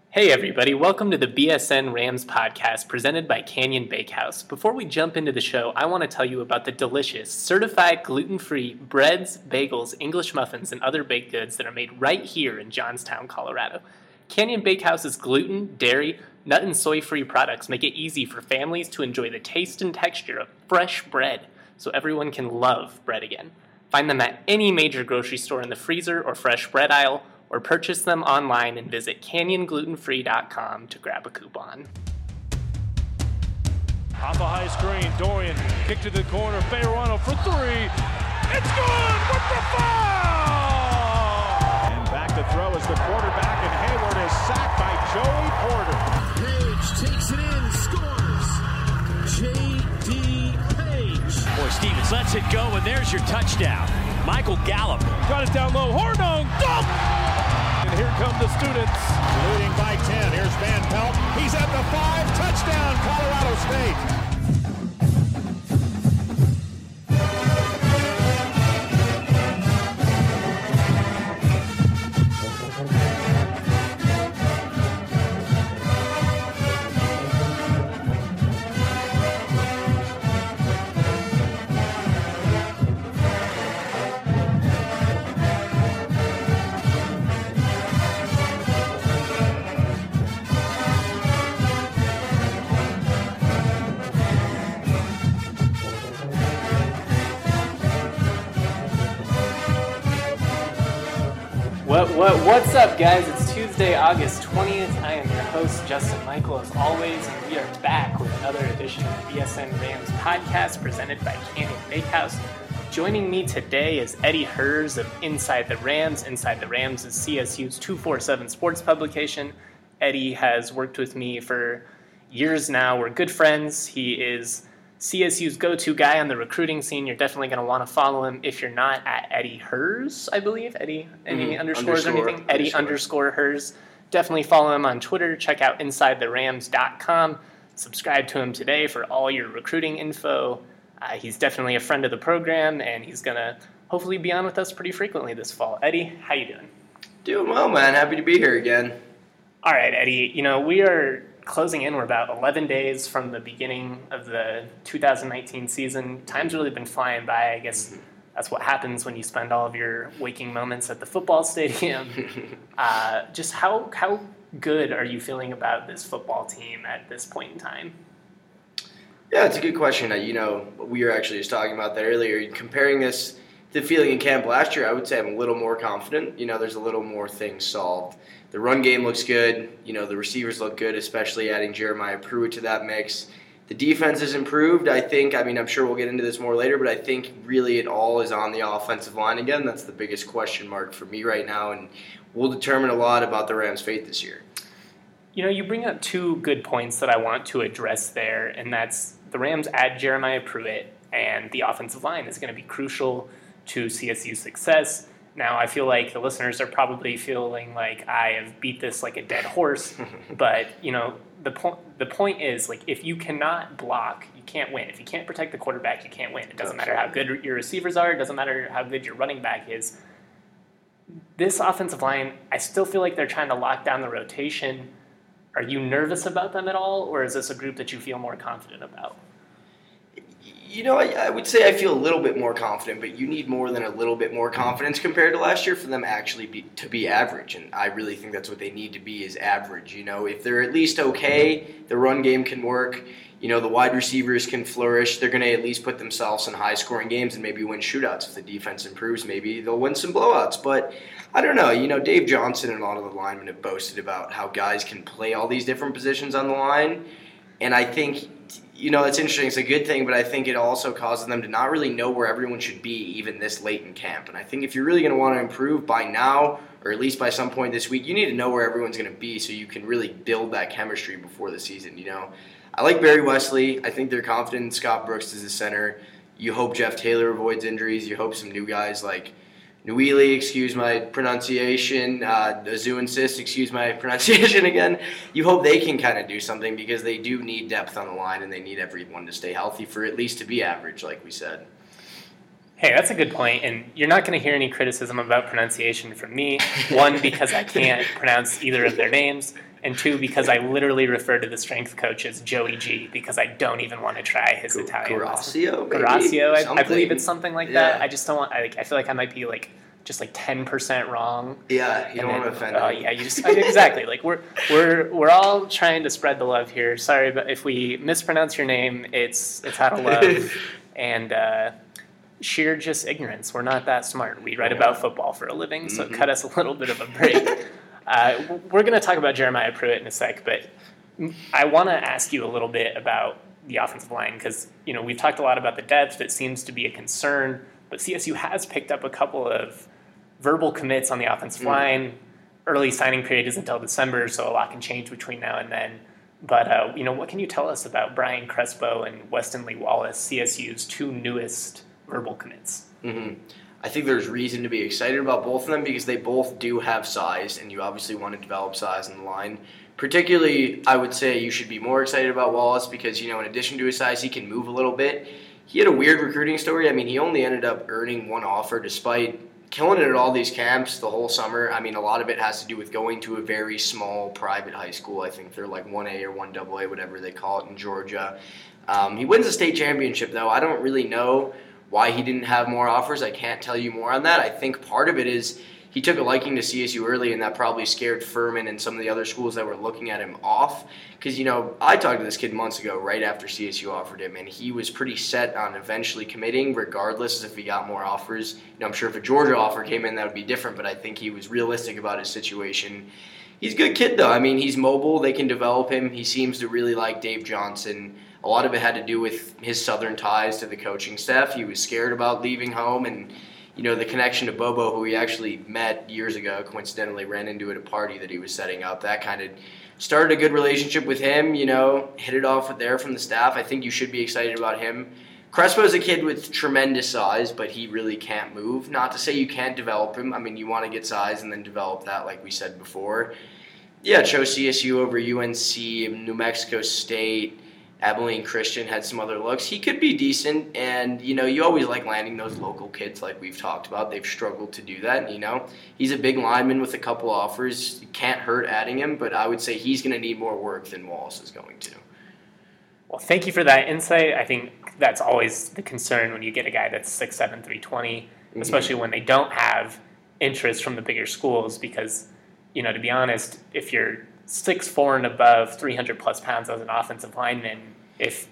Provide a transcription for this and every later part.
Hey everybody, welcome to the BSN Rams podcast presented by Canyon Bakehouse. Before we jump into the show, I want to tell you about the delicious, certified gluten-free breads, bagels, English muffins, and other baked goods that are made right here in Johnstown, Colorado. Canyon Bakehouse's gluten, dairy, nut, and soy-free products make it easy for families to enjoy the taste and texture of fresh bread, so everyone can love bread again. Find them at any major grocery store in the freezer or fresh bread aisle, or purchase them online and visit canyonglutenfree.com to grab a coupon. Off a high screen, Dorian kick to the corner, Fayerano for three. It's good with the foul! And back to throw is the quarterback, and Hayward is sacked by Joey Porter. Page takes it in, scores. J.D. Page. Boy, Stevens lets it go, and there's your touchdown. Michael Gallup. Got it down low, Hornung, dunk! And here come the students. Leading by 10. Here's Van Pelt. He's at the 5. Touchdown, Colorado State. What's up, guys? It's Tuesday, August 20th. I am your host, Justin Michael, as always, and we are back with another edition of the BSN Rams podcast presented by Canyon Bakehouse. Joining me today is Eddie Herz of Inside the Rams. Inside the Rams is CSU's 247 sports publication. Eddie has worked with me for years now. We're good friends. He is CSU's go-to guy on the recruiting scene. You're definitely going to want to follow him if you're not at Eddie Herz, I believe. Eddie, any underscores or anything? Eddie underscore Herz. Definitely follow him on Twitter. Check out InsideTheRams.com. Subscribe to him today for all your recruiting info. He's definitely a friend of the program, and he's going to hopefully be on with us pretty frequently this fall. Eddie, how you doing? Doing well, man. Happy to be here again. All right, Eddie. We are closing in. We're about 11 days from the beginning of the 2019 season. Time's really been flying by. I guess that's what happens when you spend all of your waking moments at the football stadium. Just how good are you feeling about this football team at this point in time? Yeah, it's a good question. We were actually just talking about that earlier. Comparing this to feeling in camp last year, I would say I'm a little more confident. There's a little more things solved. The run game looks good. The receivers look good, especially adding Jeremiah Pruitt to that mix. The defense has improved, I think. I'm sure we'll get into this more later, but I think really it all is on the offensive line again. That's the biggest question mark for me right now, and will determine a lot about the Rams' fate this year. You bring up two good points that I want to address there, and that's the Rams add Jeremiah Pruitt, and the offensive line is going to be crucial to CSU's success. Now, I feel like the listeners are probably feeling like I have beat this like a dead horse, but, the point is, if you cannot block, you can't win. If you can't protect the quarterback, you can't win. It doesn't matter how good your receivers are. It doesn't matter how good your running back is. This offensive line, I still feel like they're trying to lock down the rotation. Are you nervous about them at all, or is this a group that you feel more confident about? I would say I feel a little bit more confident, but you need more than a little bit more confidence compared to last year for them actually to be average, and I really think that's what they need to be is average. If they're at least okay, the run game can work, the wide receivers can flourish, they're going to at least put themselves in high-scoring games and maybe win shootouts. If the defense improves, maybe they'll win some blowouts, but I don't know. Dave Johnson and a lot of the linemen have boasted about how guys can play all these different positions on the line, and I think it's interesting. It's a good thing, but I think it also causes them to not really know where everyone should be even this late in camp. And I think if you're really going to want to improve by now, or at least by some point this week, you need to know where everyone's going to be so you can really build that chemistry before the season. I like Barry Wesley. I think they're confident in Scott Brooks as a center. You hope Jeff Taylor avoids injuries. You hope some new guys like Nwili, excuse my pronunciation, Azunsist, excuse my pronunciation again. You hope they can kind of do something because they do need depth on the line and they need everyone to stay healthy for at least to be average, like we said. Hey, that's a good point, and you're not going to hear any criticism about pronunciation from me. One, because I can't pronounce either of their names, and two, because I literally refer to the strength coach as Joey G, because I don't even want to try his Italian. Garasio, I believe it's something like that. I just don't want. I feel like I might be just 10% wrong. Yeah, you don't want to offend. Oh yeah, you just exactly. Like we're all trying to spread the love here. Sorry, but if we mispronounce your name, it's out of love and sheer just ignorance. We're not that smart. We write about football for a living, so cut us a little bit of a break. We're going to talk about Jeremiah Pruitt in a sec, but I want to ask you a little bit about the offensive line because we've talked a lot about the depth. It seems to be a concern, but CSU has picked up a couple of verbal commits on the offensive line. Early signing period isn't until December, so a lot can change between now and then. But what can you tell us about Brian Crespo and Weston Lee Wallace, CSU's two newest verbal commits? I think there's reason to be excited about both of them because they both do have size, and you obviously want to develop size in the line. Particularly, I would say you should be more excited about Wallace because, in addition to his size, he can move a little bit. He had a weird recruiting story. I mean, he only ended up earning one offer despite killing it at all these camps the whole summer. I mean, a lot of it has to do with going to a very small private high school. I think they're like 1A or 1AA, whatever they call it in Georgia. He wins a state championship, though. I don't really know why he didn't have more offers. I can't tell you more on that. I think part of it is he took a liking to CSU early, and that probably scared Furman and some of the other schools that were looking at him off. Because, I talked to this kid months ago right after CSU offered him, and he was pretty set on eventually committing regardless if he got more offers. I'm sure if a Georgia offer came in, that would be different, but I think he was realistic about his situation. He's a good kid, though. I mean, he's mobile. They can develop him. He seems to really like Dave Johnson. A lot of it had to do with his Southern ties to the coaching staff. He was scared about leaving home, and the connection to Bobo, who he actually met years ago, coincidentally ran into at a party that he was setting up. That kind of started a good relationship with him, hit it off with there from the staff. I think you should be excited about him. Crespo's a kid with tremendous size, but he really can't move. Not to say you can't develop him. I mean, you want to get size and then develop that, like we said before. Yeah, chose CSU over UNC, New Mexico State. Abilene Christian had some other looks. He could be decent, and, you always like landing those local kids like we've talked about. They've struggled to do that, he's a big lineman with a couple offers. It can't hurt adding him, but I would say he's going to need more work than Wallace is going to. Well, thank you for that insight. I think that's always the concern when you get a guy that's 6'7", 320, especially when they don't have interest from the bigger schools because, to be honest, if you're 6'4" and above, 300-plus pounds as an offensive lineman, if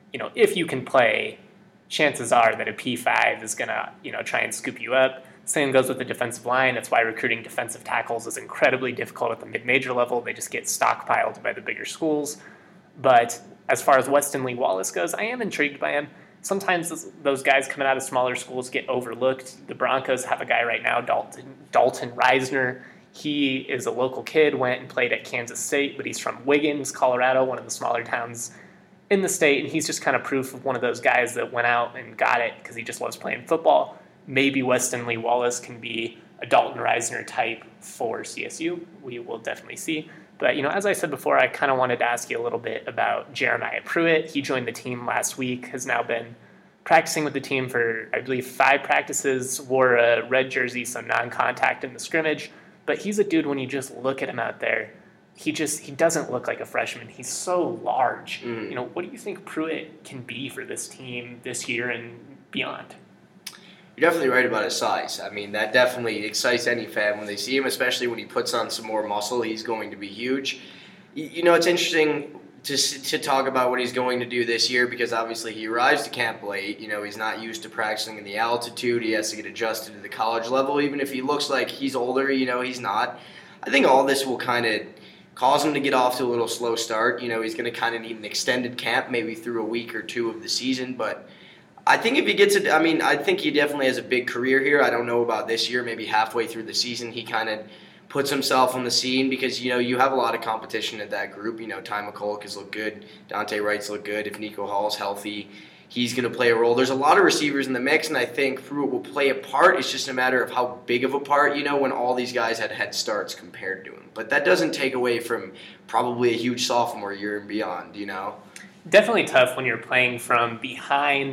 you can play, chances are that a P5 is going to, try and scoop you up. Same goes with the defensive line. That's why recruiting defensive tackles is incredibly difficult at the mid-major level. They just get stockpiled by the bigger schools. But as far as Weston Lee Wallace goes, I am intrigued by him. Sometimes those guys coming out of smaller schools get overlooked. The Broncos have a guy right now, Dalton Reisner. He is a local kid, went and played at Kansas State, but he's from Wiggins, Colorado, one of the smaller towns in the state, and he's just kind of proof of one of those guys that went out and got it because he just loves playing football. Maybe Weston Lee Wallace can be a Dalton Reisner type for CSU. We will definitely see. But, as I said before, I kind of wanted to ask you a little bit about Jeremiah Pruitt. He joined the team last week, has now been practicing with the team for, I believe, 5 practices, wore a red jersey, so non-contact in the scrimmage. But he's a dude, when you just look at him out there, he doesn't look like a freshman. He's so large. What do you think Pruitt can be for this team this year and beyond? You're definitely right about his size. I mean, that definitely excites any fan when they see him, especially when he puts on some more muscle. He's going to be huge. It's interesting to talk about what he's going to do this year because obviously he arrives to camp late. He's not used to practicing in the altitude. He has to get adjusted to the college level. Even if he looks like he's older, he's not. I think all this will kind of cause him to get off to a little slow start. He's going to kind of need an extended camp, maybe through a week or two of the season. But I think if he gets it, I think he definitely has a big career here. I don't know about this year. Maybe halfway through the season, he kind of puts himself on the scene because, you have a lot of competition at that group. Ty McCulloch has looked good. Dante Wright's looked good. If Nico Hall's healthy, he's going to play a role. There's a lot of receivers in the mix, and I think Pruitt will play a part. It's just a matter of how big of a part, when all these guys had head starts compared to him. But that doesn't take away from probably a huge sophomore year and beyond, Definitely tough when you're playing from behind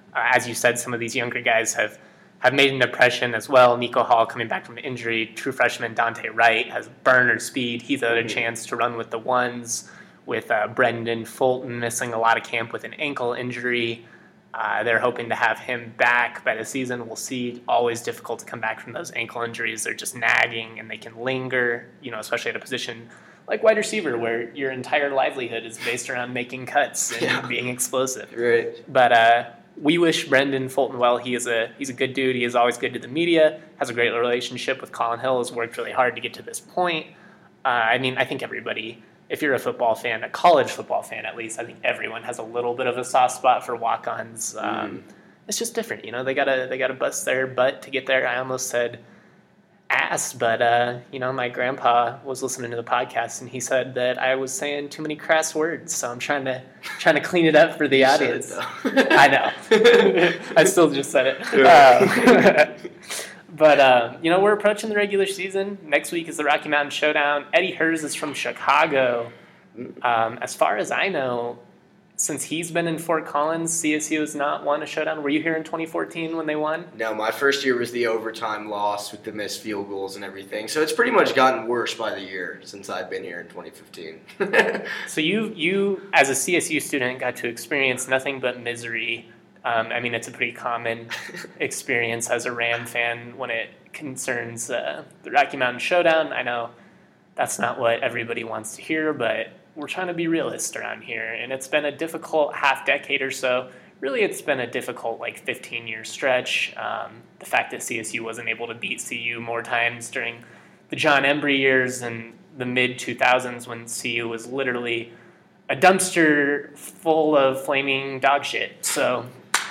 As you said, some of these younger guys have made an impression as well. Nico Hall coming back from injury. True freshman Dante Wright has burner speed. He's had a chance to run with the ones. With Brendan Fulton missing a lot of camp with an ankle injury. They're hoping to have him back by the season. We'll see. Always difficult to come back from those ankle injuries. They're just nagging and they can linger, especially at a position like wide receiver where your entire livelihood is based around making cuts and being explosive. Right. But we wish Brendan Fulton well. He's a good dude. He is always good to the media, has a great relationship with Colin Hill, has worked really hard to get to this point. I think everybody, if you're a football fan, a college football fan at least, I think everyone has a little bit of a soft spot for walk-ons. It's just different, They gotta bust their butt to get there. I almost said ass, but my grandpa was listening to the podcast and he said that I was saying too many crass words, so I'm trying to clean it up for the audience. I know. I still just said it. But, we're approaching the regular season. Next week is the Rocky Mountain Showdown. Eddie Hers is from Chicago. As far as I know, since he's been in Fort Collins, CSU has not won a showdown. Were you here in 2014 when they won? No, my first year was the overtime loss with the missed field goals and everything. So it's pretty much gotten worse by the year since I've been here in 2015. So you, as a CSU student, got to experience nothing but misery. It's a pretty common experience as a Ram fan when it concerns the Rocky Mountain Showdown. I know that's not what everybody wants to hear, but we're trying to be realist around here. And it's been a difficult half-decade or so. Really, it's been a difficult, 15-year stretch. The fact that CSU wasn't able to beat CU more times during the John Embry years and the mid-2000s when CU was literally a dumpster full of flaming dog shit. So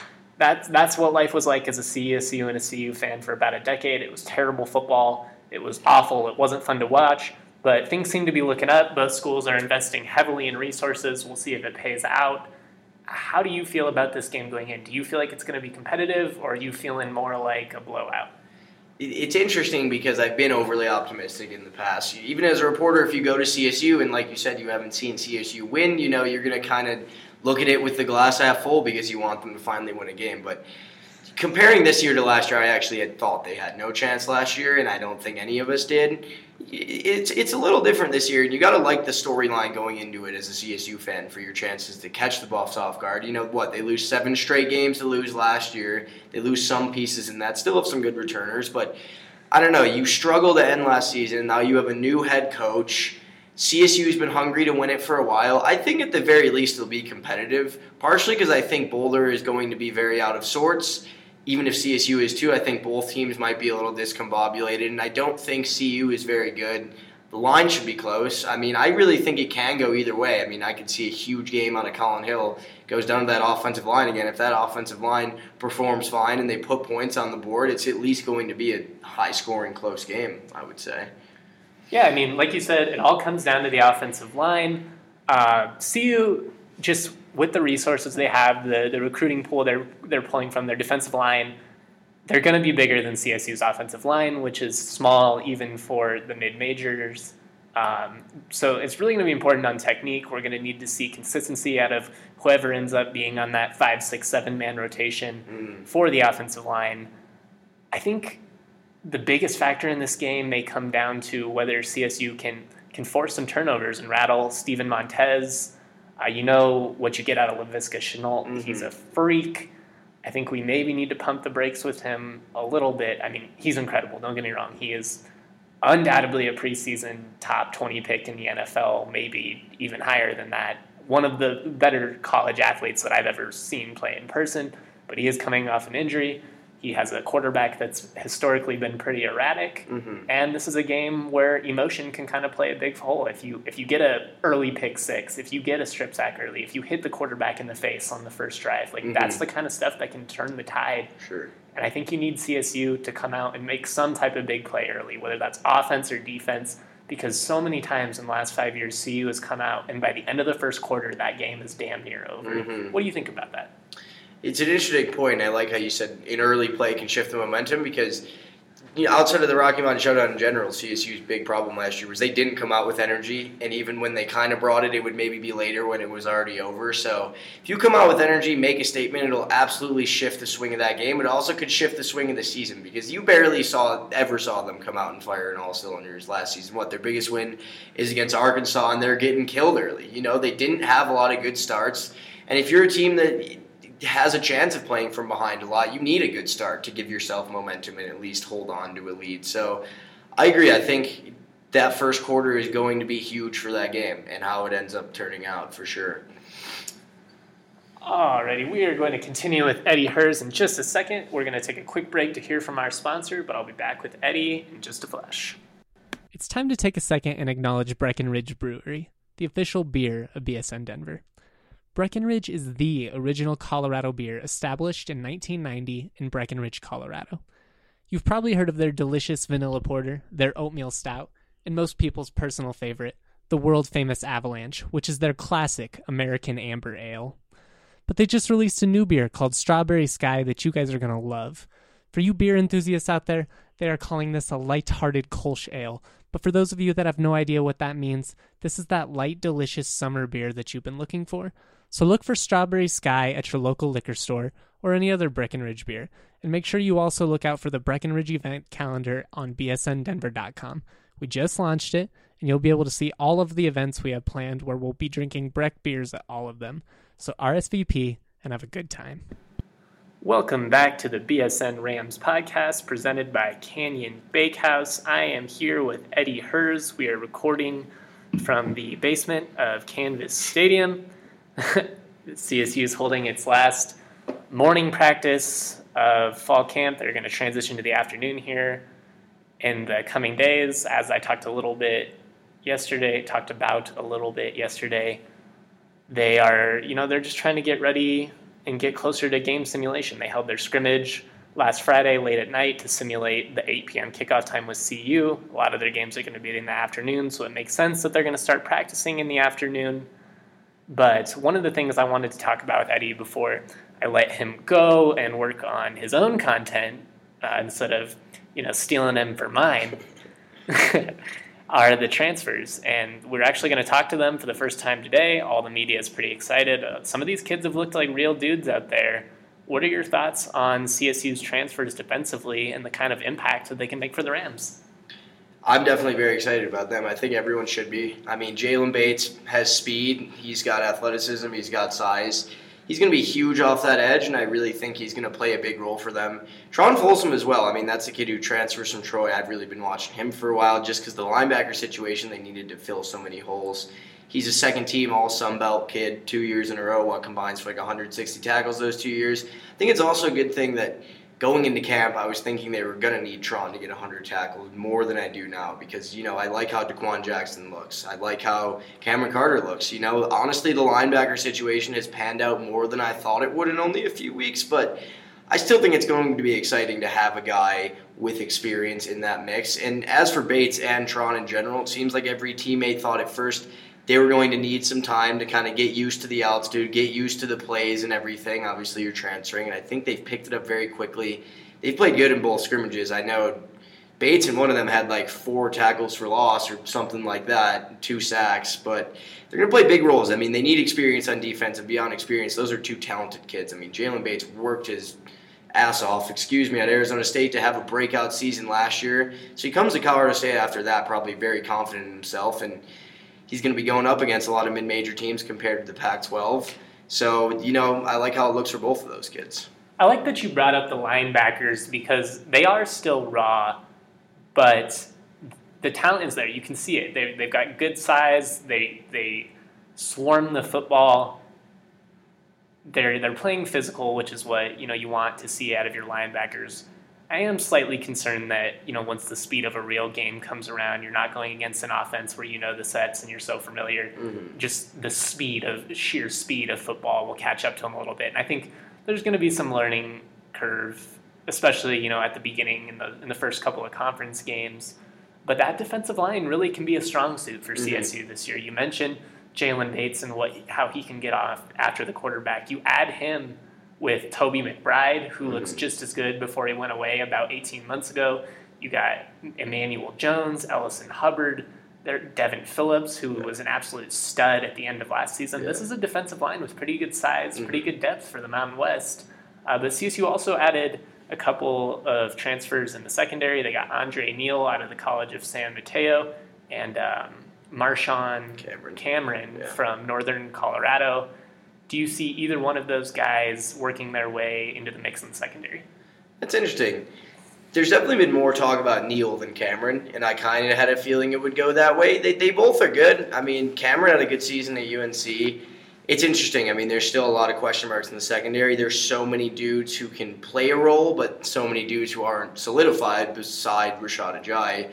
that's what life was like as a CSU and a CU fan for about a decade. It was terrible football. It was awful. It wasn't fun to watch. But things seem to be looking up. Both schools are investing heavily in resources. We'll see if it pays out. How do you feel about this game going in? Do you feel like it's going to be competitive, or are you feeling more like a blowout? It's interesting because I've been overly optimistic in the past. Even as a reporter, if you go to CSU and, like you said, you haven't seen CSU win, you're going to kind of look at it with the glass half full because you want them to finally win a game. But comparing this year to last year, I actually had thought they had no chance last year, and I don't think any of us did. It's a little different this year, and you got to like the storyline going into it as a CSU fan for your chances to catch the Buffs off guard. They lose 7 straight games to lose last year. They lose some pieces in that. Still have some good returners, but I don't know. You struggled to end last season. Now you have a new head coach. CSU's been hungry to win it for a while. I think at the very least it'll be competitive, partially because I think Boulder is going to be very out of sorts. Even if CSU is too, I think both teams might be a little discombobulated, and I don't think CU is very good. The line should be close. I really think it can go either way. I could see a huge game out of Colin Hill. It goes down to that offensive line again. If that offensive line performs fine and they put points on the board, it's at least going to be a high-scoring, close game, I would say. Yeah, like you said, it all comes down to the offensive line. CU, just with the resources they have, the recruiting pool they're pulling from, their defensive line, they're going to be bigger than CSU's offensive line, which is small even for the mid-majors. So it's really going to be important on technique. We're going to need to see consistency out of whoever ends up being on that 5, 6, 7-man rotation for the offensive line. I think the biggest factor in this game may come down to whether CSU can force some turnovers and rattle Steven Montez. You know what you get out of Laviska Shenault. Mm-hmm. He's a freak. I think we maybe need to pump the brakes with him a little bit. He's incredible. Don't get me wrong. He is undoubtedly a preseason top 20 pick in the NFL, maybe even higher than that. One of the better college athletes that I've ever seen play in person, but he is coming off an injury. He has a quarterback that's historically been pretty erratic, and this is a game where emotion can kind of play a big role. If you get an early pick six, if you get a strip sack early, if you hit the quarterback in the face on the first drive, that's the kind of stuff that can turn the tide. Sure. And I think you need CSU to come out and make some type of big play early, whether that's offense or defense, because so many times in the last 5 years, CU has come out, and by the end of the first quarter, that game is damn near over. What do you think about that? It's an interesting point. I like how you said an early play can shift the momentum, because outside of the Rocky Mountain Showdown in general, CSU's big problem last year was they didn't come out with energy, and even when they kind of brought it, it would maybe be later when it was already over. So if you come out with energy, make a statement, it'll absolutely shift the swing of that game. It also could shift the swing of the season because you barely ever saw them come out and fire in all cylinders last season. Their biggest win is against Arkansas, and they're getting killed early. They didn't have a lot of good starts, and if you're a team that has a chance of playing from behind a lot, you need a good start to give yourself momentum and at least hold on to a lead. So I agree. I think that first quarter is going to be huge for that game and how it ends up turning out for sure. Alrighty, we are going to continue with Eddie Herz in just a second. We're going to take a quick break to hear from our sponsor, but I'll be back with Eddie in just a flash. It's time to take a second and acknowledge Breckenridge Brewery, the official beer of BSN Denver. Breckenridge is the original Colorado beer established in 1990 in Breckenridge, Colorado. You've probably heard of their delicious vanilla porter, their oatmeal stout, and most people's personal favorite, the world-famous Avalanche, which is their classic American amber ale. But they just released a new beer called Strawberry Sky that you guys are going to love. For you beer enthusiasts out there, they are calling this a light-hearted Kolsch ale. But for those of you that have no idea what that means, this is that light, delicious summer beer that you've been looking for. So look for Strawberry Sky at your local liquor store or any other Breckenridge beer. And make sure you also look out for the Breckenridge event calendar on bsndenver.com. We just launched it, and you'll be able to see all of the events we have planned where we'll be drinking Breck beers at all of them. So RSVP and have a good time. Welcome back to the BSN Rams podcast presented by Canyon Bakehouse. I am here with Eddie Herz. We are recording from the basement of Canvas Stadium. CSU is holding its last morning practice of fall camp. They're going to transition to the afternoon here in the coming days. As I talked about a little bit yesterday, they are, they're just trying to get ready and get closer to game simulation. They held their scrimmage last Friday late at night to simulate the 8 p.m. kickoff time with CU. A lot of their games are going to be in the afternoon, so it makes sense that they're going to start practicing in the afternoon. But one of the things I wanted to talk about with Eddie before I let him go and work on his own content instead of, stealing them for mine are the transfers. And we're actually going to talk to them for the first time today. All the media is pretty excited. Some of these kids have looked like real dudes out there. What are your thoughts on CSU's transfers defensively and the kind of impact that they can make for the Rams? I'm definitely very excited about them. I think everyone should be. I mean, Jalen Bates has speed. He's got athleticism. He's got size. He's going to be huge off that edge, and I really think he's going to play a big role for them. Tron Folsom as well. I mean, that's a kid who transfers from Troy. I've really been watching him for a while just because the linebacker situation, they needed to fill so many holes. He's a second-team All-Sun Belt kid 2 years in a row, combines for 160 tackles those 2 years. I think it's also a good thing that going into camp, I was thinking they were going to need Tron to get 100 tackles more than I do now because, I like how DeQuan Jackson looks. I like how Cameron Carter looks. Honestly, the linebacker situation has panned out more than I thought it would in only a few weeks, but I still think it's going to be exciting to have a guy with experience in that mix. And as for Bates and Tron in general, it seems like every teammate thought at first they were going to need some time to kind of get used to the altitude, get used to the plays and everything. Obviously, you're transferring, and I think they've picked it up very quickly. They've played good in both scrimmages. I know Bates and one of them had 4 tackles for loss or something like that, 2 sacks, but they're going to play big roles. I mean, they need experience on defense, and beyond experience, those are 2 talented kids. I mean, Jalen Bates worked his ass off, at Arizona State to have a breakout season last year. So he comes to Colorado State after that probably very confident in himself, and he's going to be going up against a lot of mid-major teams compared to the Pac-12. So, I like how it looks for both of those kids. I like that you brought up the linebackers because they are still raw, but the talent is there. You can see it. They've got good size. They swarm the football. They're playing physical, which is what you want to see out of your linebackers. I am slightly concerned that, once the speed of a real game comes around, you're not going against an offense where the sets and you're so familiar. Mm-hmm. Just the sheer speed of football will catch up to them a little bit. And I think there's going to be some learning curve, especially, at the beginning in the first couple of conference games. But that defensive line really can be a strong suit for CSU this year. You mentioned Jalen Bates and how he can get off after the quarterback. You add him with Toby McBride, who looks just as good before he went away about 18 months ago. You got Emmanuel Jones, Ellison Hubbard, Devin Phillips, who was an absolute stud at the end of last season. This is a defensive line with pretty good size, pretty good depth for the Mountain West. But CSU also added a couple of transfers in the secondary. They got Andre Neal out of the College of San Mateo and Marshawn Cameron from Northern Colorado. Do you see either one of those guys working their way into the mix in the secondary? That's interesting. There's definitely been more talk about Neal than Cameron, and I kind of had a feeling it would go that way. They both are good. I mean, Cameron had a good season at UNC. It's interesting. I mean, there's still a lot of question marks in the secondary. There's so many dudes who can play a role, but so many dudes who aren't solidified beside Rashad Ajayi.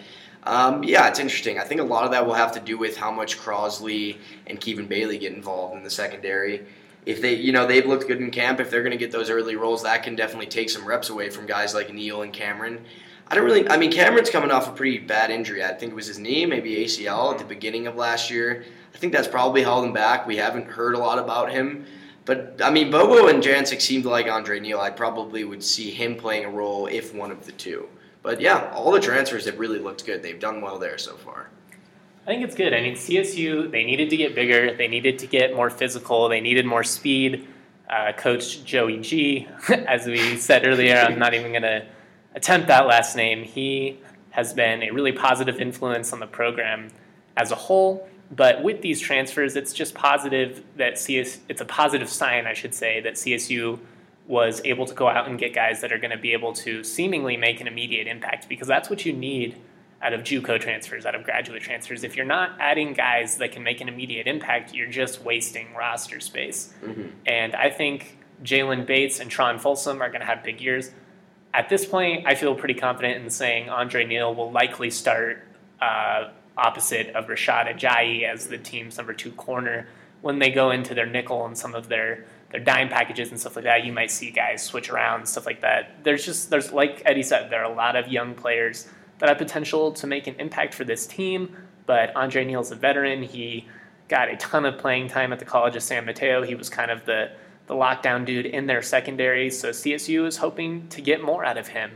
It's interesting. I think a lot of that will have to do with how much Crosley and Kevin Bailey get involved in the secondary. If they've looked good in camp, if they're going to get those early roles, that can definitely take some reps away from guys like Neal and Cameron. Cameron's coming off a pretty bad injury. I think it was his knee, maybe ACL at the beginning of last year. I think that's probably held him back. We haven't heard a lot about him. But, Bobo and Jancic seemed like Andre Neal. I probably would see him playing a role if one of the two. But, all the transfers have really looked good. They've done well there so far. I think it's good. I mean, CSU, they needed to get bigger. They needed to get more physical. They needed more speed. Coach Joey G, as we said earlier, I'm not even going to attempt that last name. He has been a really positive influence on the program as a whole. But with these transfers, it's just positive that it's a positive sign, I should say, that CSU was able to go out and get guys that are going to be able to seemingly make an immediate impact, because that's what you need out of JUCO transfers, out of graduate transfers. If you're not adding guys that can make an immediate impact, you're just wasting roster space. Mm-hmm. And I think Jalen Bates and Tron Folsom are going to have big years. At this point, I feel pretty confident in saying Andre Neal will likely start opposite of Rashad Ajayi as the team's number 2 corner. When they go into their nickel and some of their dime packages and stuff like that, you might see guys switch around and stuff like that. There's like Eddie said, there are a lot of young players that have potential to make an impact for this team, but Andre Neal's a veteran. He got a ton of playing time at the College of San Mateo. He was kind of the lockdown dude in their secondary, so CSU is hoping to get more out of him.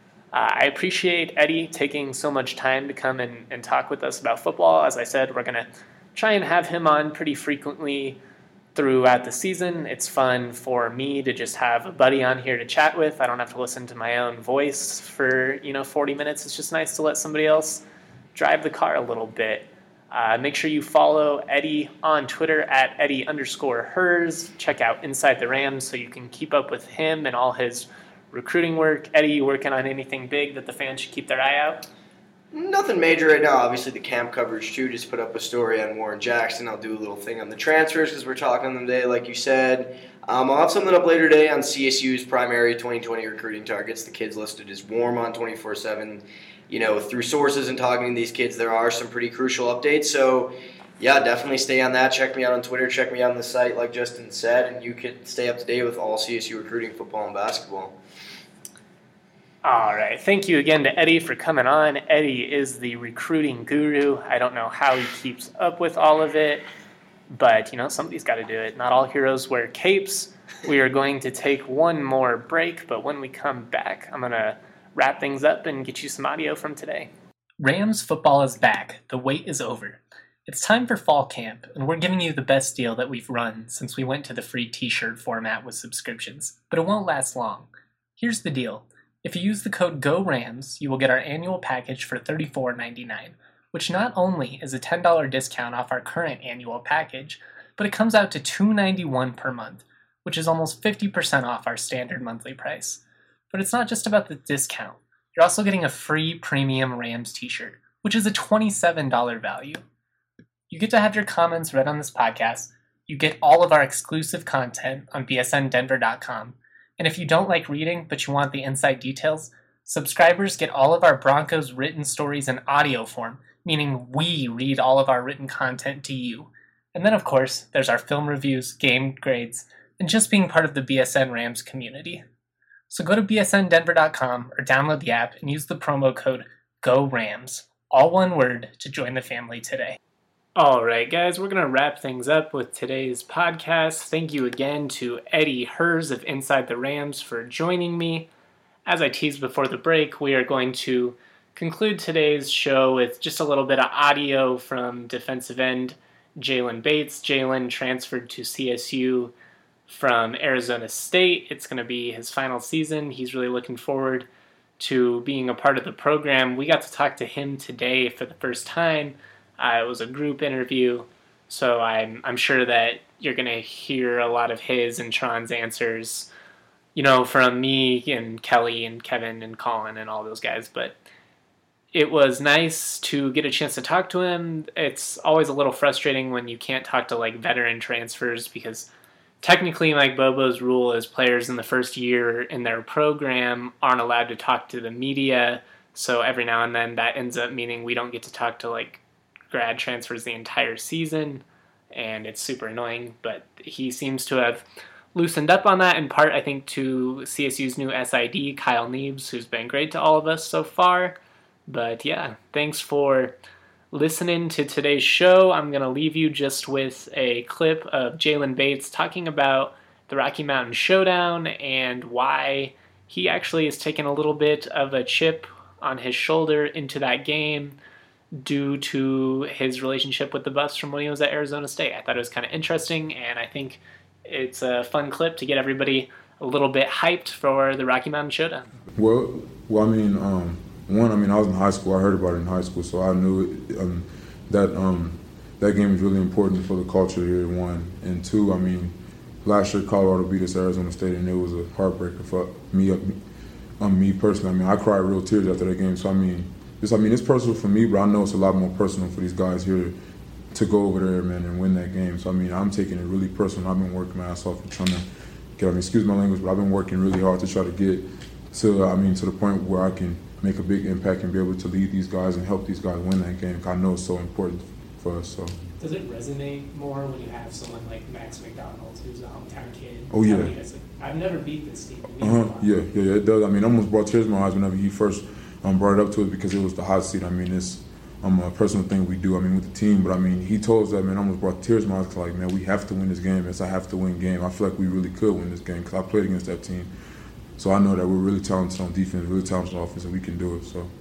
I appreciate Eddie taking so much time to come and talk with us about football. As I said, we're going to try and have him on pretty frequently throughout the season. It's fun for me to just have a buddy on here to chat with. I don't have to listen to my own voice for 40 minutes. It's just nice to let somebody else drive the car a little bit. Make sure you follow Eddie on Twitter at Eddie_Hers. Check out Inside the Rams so you can keep up with him and all his recruiting work. Eddie, you working on anything big that the fans should keep their eye out? Nothing major right now. Obviously, the camp coverage, too. Just put up a story on Warren Jackson. I'll do a little thing on the transfers because we're talking on them today, like you said. I'll have something up later today on CSU's primary 2020 recruiting targets. The kids listed as warm on 24/7. Through sources and talking to these kids, there are some pretty crucial updates. So, definitely stay on that. Check me out on Twitter. Check me out on the site, like Justin said, and you can stay up to date with all CSU recruiting, football, and basketball. All right. Thank you again to Eddie for coming on. Eddie is the recruiting guru. I don't know how he keeps up with all of it, but, somebody's got to do it. Not all heroes wear capes. We are going to take one more break, but when we come back, I'm going to wrap things up and get you some audio from today. Rams football is back. The wait is over. It's time for fall camp, and we're giving you the best deal that we've run since we went to the free t-shirt format with subscriptions, but it won't last long. Here's the deal. If you use the code GORAMS, you will get our annual package for $34.99, which not only is a $10 discount off our current annual package, but it comes out to $291 per month, which is almost 50% off our standard monthly price. But it's not just about the discount. You're also getting a free premium Rams t-shirt, which is a $27 value. You get to have your comments read on this podcast. You get all of our exclusive content on bsndenver.com. And if you don't like reading, but you want the inside details, subscribers get all of our Broncos written stories in audio form, meaning we read all of our written content to you. And then, of course, there's our film reviews, game grades, and just being part of the BSN Rams community. So go to bsndenver.com or download the app and use the promo code GORAMS, all one word, to join the family today. All right, guys, we're going to wrap things up with today's podcast. Thank you again to Eddie Hers of Inside the Rams for joining me. As I teased before the break, we are going to conclude today's show with just a little bit of audio from defensive end Jalen Bates. Jalen transferred to CSU from Arizona State. It's going to be his final season. He's really looking forward to being a part of the program. We got to talk to him today for the first time. It was a group interview, so I'm sure that you're going to hear a lot of his and Tron's answers, from me and Kelly and Kevin and Colin and all those guys. But it was nice to get a chance to talk to him. It's always a little frustrating when you can't talk to veteran transfers, because technically Mike Bobo's rule is players in the first year in their program aren't allowed to talk to the media. So every now and then that ends up meaning we don't get to talk to grad transfers the entire season, and it's super annoying. But he seems to have loosened up on that, in part I think to CSU's new SID, Kyle Neebs, who's been great to all of us so far. But yeah, thanks for listening to today's show. I'm going to leave you just with a clip of Jalen Bates talking about the Rocky Mountain Showdown and why he actually is taking a little bit of a chip on his shoulder into that game due to his relationship with the Buffs from when he was at Arizona State. I thought it was kind of interesting, and I think it's a fun clip to get everybody a little bit hyped for the Rocky Mountain Showdown. Well, I mean, I was in high school. I heard about it in high school, so I knew that game was really important for the culture here, one. And two, I mean, last year Colorado beat us Arizona State, and it was a heartbreaker for me personally. I mean, I cried real tears after that game. So it's personal for me, but I know it's a lot more personal for these guys here to go over there, man, and win that game. So I'm taking it really personal. I've been working my ass off and trying to get. Excuse my language, but I've been working really hard to try to get to the point where I can make a big impact and be able to lead these guys and help these guys win that game. I know it's so important for us. So. Does it resonate more when you have someone like Max McDonald, who's a hometown kid? Oh yeah. I've never beat this team. Yeah, it does. I almost brought tears to my eyes whenever he first brought it up to us, because it was the hot seat. It's a personal thing we do. With the team, but he told us that, man. I almost brought tears to my eyes. Man, we have to win this game. It's a have to win game. I feel like we really could win this game because I played against that team. So I know that we're really talented on defense, really talented on offense, and we can do it. So.